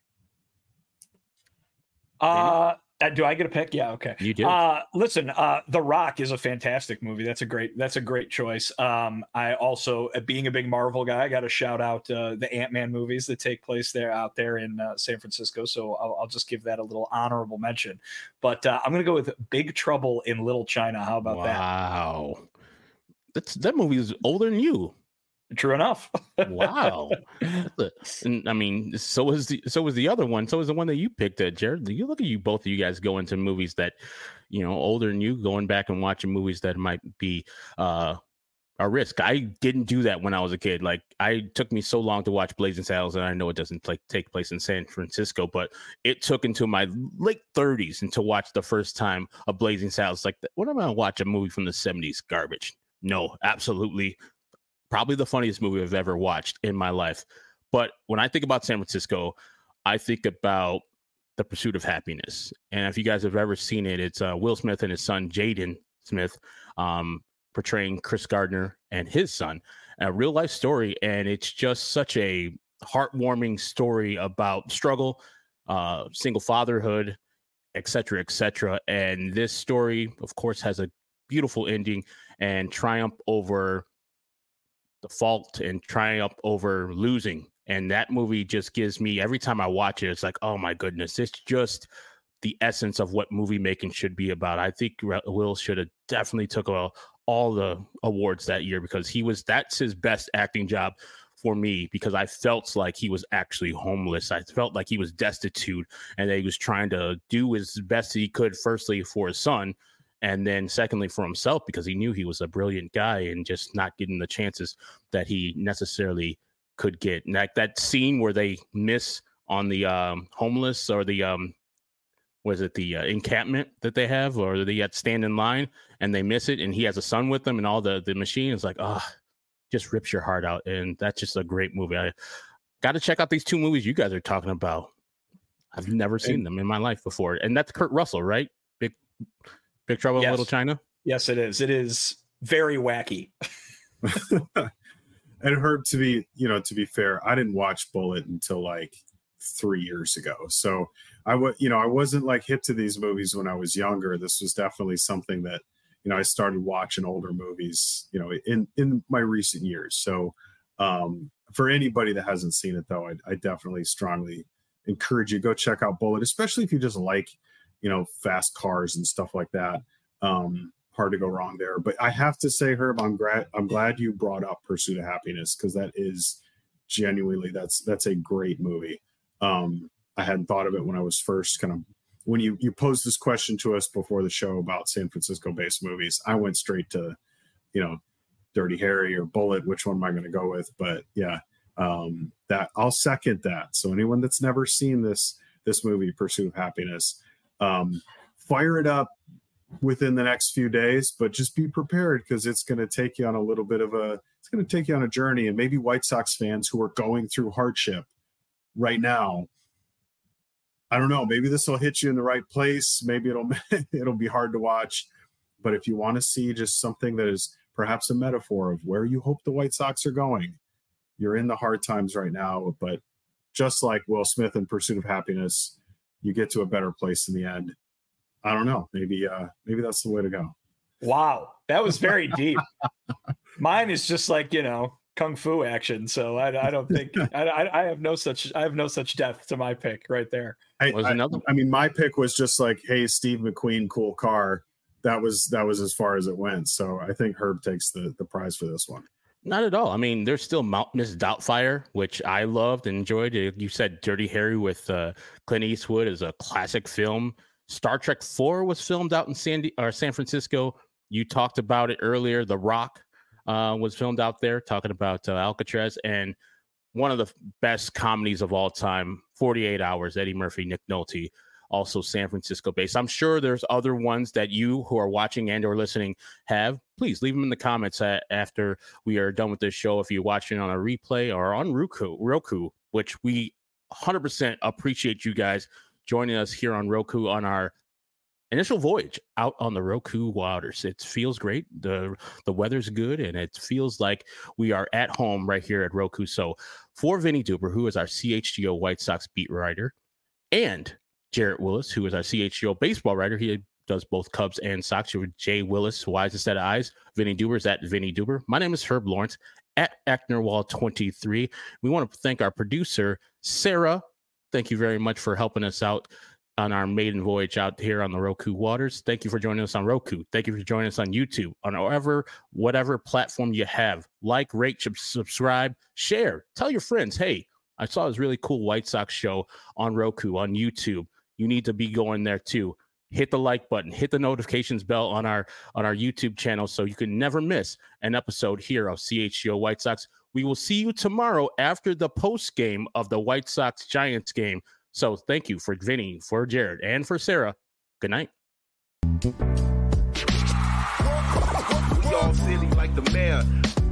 Do I get a pick? Yeah, okay. You do. Listen, The Rock is a fantastic movie. That's a great choice. I also, being a big Marvel guy, I got to shout out the Ant-Man movies that take place out there in San Francisco. So I'll just give that a little honorable mention. But I'm going to go with Big Trouble in Little China. How about that? Wow, that movie is older than you. True enough. Wow. And I mean, so was the other one. So was the one that you picked, Jared. You look at you, both of you guys go into movies that, older than you, going back and watching movies that might be a risk. I didn't do that when I was a kid. Like, it took me so long to watch Blazing Saddles, and I know it doesn't take place in San Francisco, but it took until my late 30s and to watch the first time a Blazing Saddles. Like, what am I gonna watch a movie from the 70s? Garbage. No, absolutely. Probably the funniest movie I've ever watched in my life. But when I think about San Francisco, I think about The Pursuit of Happiness. And if you guys have ever seen it, it's Will Smith and his son, Jaden Smith, portraying Chris Gardner and his son. A real life story. And it's just such a heartwarming story about struggle, single fatherhood, et cetera, et cetera. And this story, of course, has a beautiful ending and triumph over default and triumph over losing. And that movie just gives me, every time I watch it, it's like, oh my goodness, it's just the essence of what movie making should be about. I think Will should have definitely took all the awards that year, because that's his best acting job for me, because I felt like he was actually homeless. I felt like he was destitute, and that he was trying to do his best he could, firstly for his son, and then secondly for himself, because he knew he was a brilliant guy and just not getting the chances that he necessarily could get. And that scene where they miss on the homeless, or the encampment that they have, or they had to stand in line and they miss it, and he has a son with them, and all the machine is like, just rips your heart out. And that's just a great movie. I got to check out these two movies you guys are talking about. I've never seen them in my life before. And that's Kurt Russell, right? Big Trouble in Little China? Yes, it is. It is very wacky. And Herb, to be fair, I didn't watch Bullitt until like 3 years ago. So I wasn't like hip to these movies when I was younger. This was definitely something that, I started watching older movies, in my recent years. So for anybody that hasn't seen it, though, I definitely strongly encourage you, go check out Bullitt, especially if you just like, fast cars and stuff like that. Hard to go wrong there. But I have to say, Herb, I'm glad you brought up Pursuit of Happiness, because that is genuinely, that's a great movie. I hadn't thought of it when I was first when you posed this question to us before the show about San Francisco based movies. I went straight to, Dirty Harry or Bullitt. Which one am I going to go with? But yeah, that I'll second that. So anyone that's never seen this movie, Pursuit of Happiness, fire it up within the next few days, but just be prepared, because it's going to take you on a journey. And maybe White Sox fans who are going through hardship right now, I don't know, maybe this will hit you in the right place. Maybe it'll be hard to watch, but if you want to see just something that is perhaps a metaphor of where you hope the White Sox are going, you're in the hard times right now, but just like Will Smith in Pursuit of Happiness, you get to a better place in the end. I don't know. Maybe that's the way to go. Wow. That was very deep. Mine is just like, Kung Fu action. So I don't think I have no such depth to my pick right there. My pick was just like, hey, Steve McQueen, cool car. That was as far as it went. So I think Herb takes the prize for this one. Not at all. I mean, there's still Miss Doubtfire, which I loved and enjoyed. You said Dirty Harry with Clint Eastwood is a classic film. Star Trek 4 was filmed out in San Francisco. You talked about it earlier. The Rock was filmed out there, talking about Alcatraz. And one of the best comedies of all time, 48 Hours, Eddie Murphy, Nick Nolte. also San Francisco based. I'm sure there's other ones that you who are watching and or listening have. Please leave them in the comments after we are done with this show. If you're watching on a replay or on Roku, which we 100% appreciate you guys joining us here on Roku on our initial voyage out on the Roku waters. It feels great. The weather's good, and it feels like we are at home right here at Roku. So for Vinny Duber, who is our CHGO White Sox beat writer, and Jarrett Willis, who is our CHGO baseball writer, he does both Cubs and Sox. You're Jay Willis, Wise Set of Eyes. Vinny Duber is at Vinny Duber. My name is Herb Lawrence at Ecknerwall23. We want to thank our producer, Sarah. Thank you very much for helping us out on our maiden voyage out here on the Roku waters. Thank you for joining us on Roku. Thank you for joining us on YouTube, on whatever platform you have. Like, rate, subscribe, share. Tell your friends, hey, I saw this really cool White Sox show on Roku, on YouTube. You need to be going there too. Hit the like button, hit the notifications bell on our YouTube channel so you can never miss an episode here of CHGO White Sox. We will see you tomorrow after the post game of the White Sox Giants game. So thank you for Vinny, for Jared, and for Sarah. Good night. We all silly like the mayor.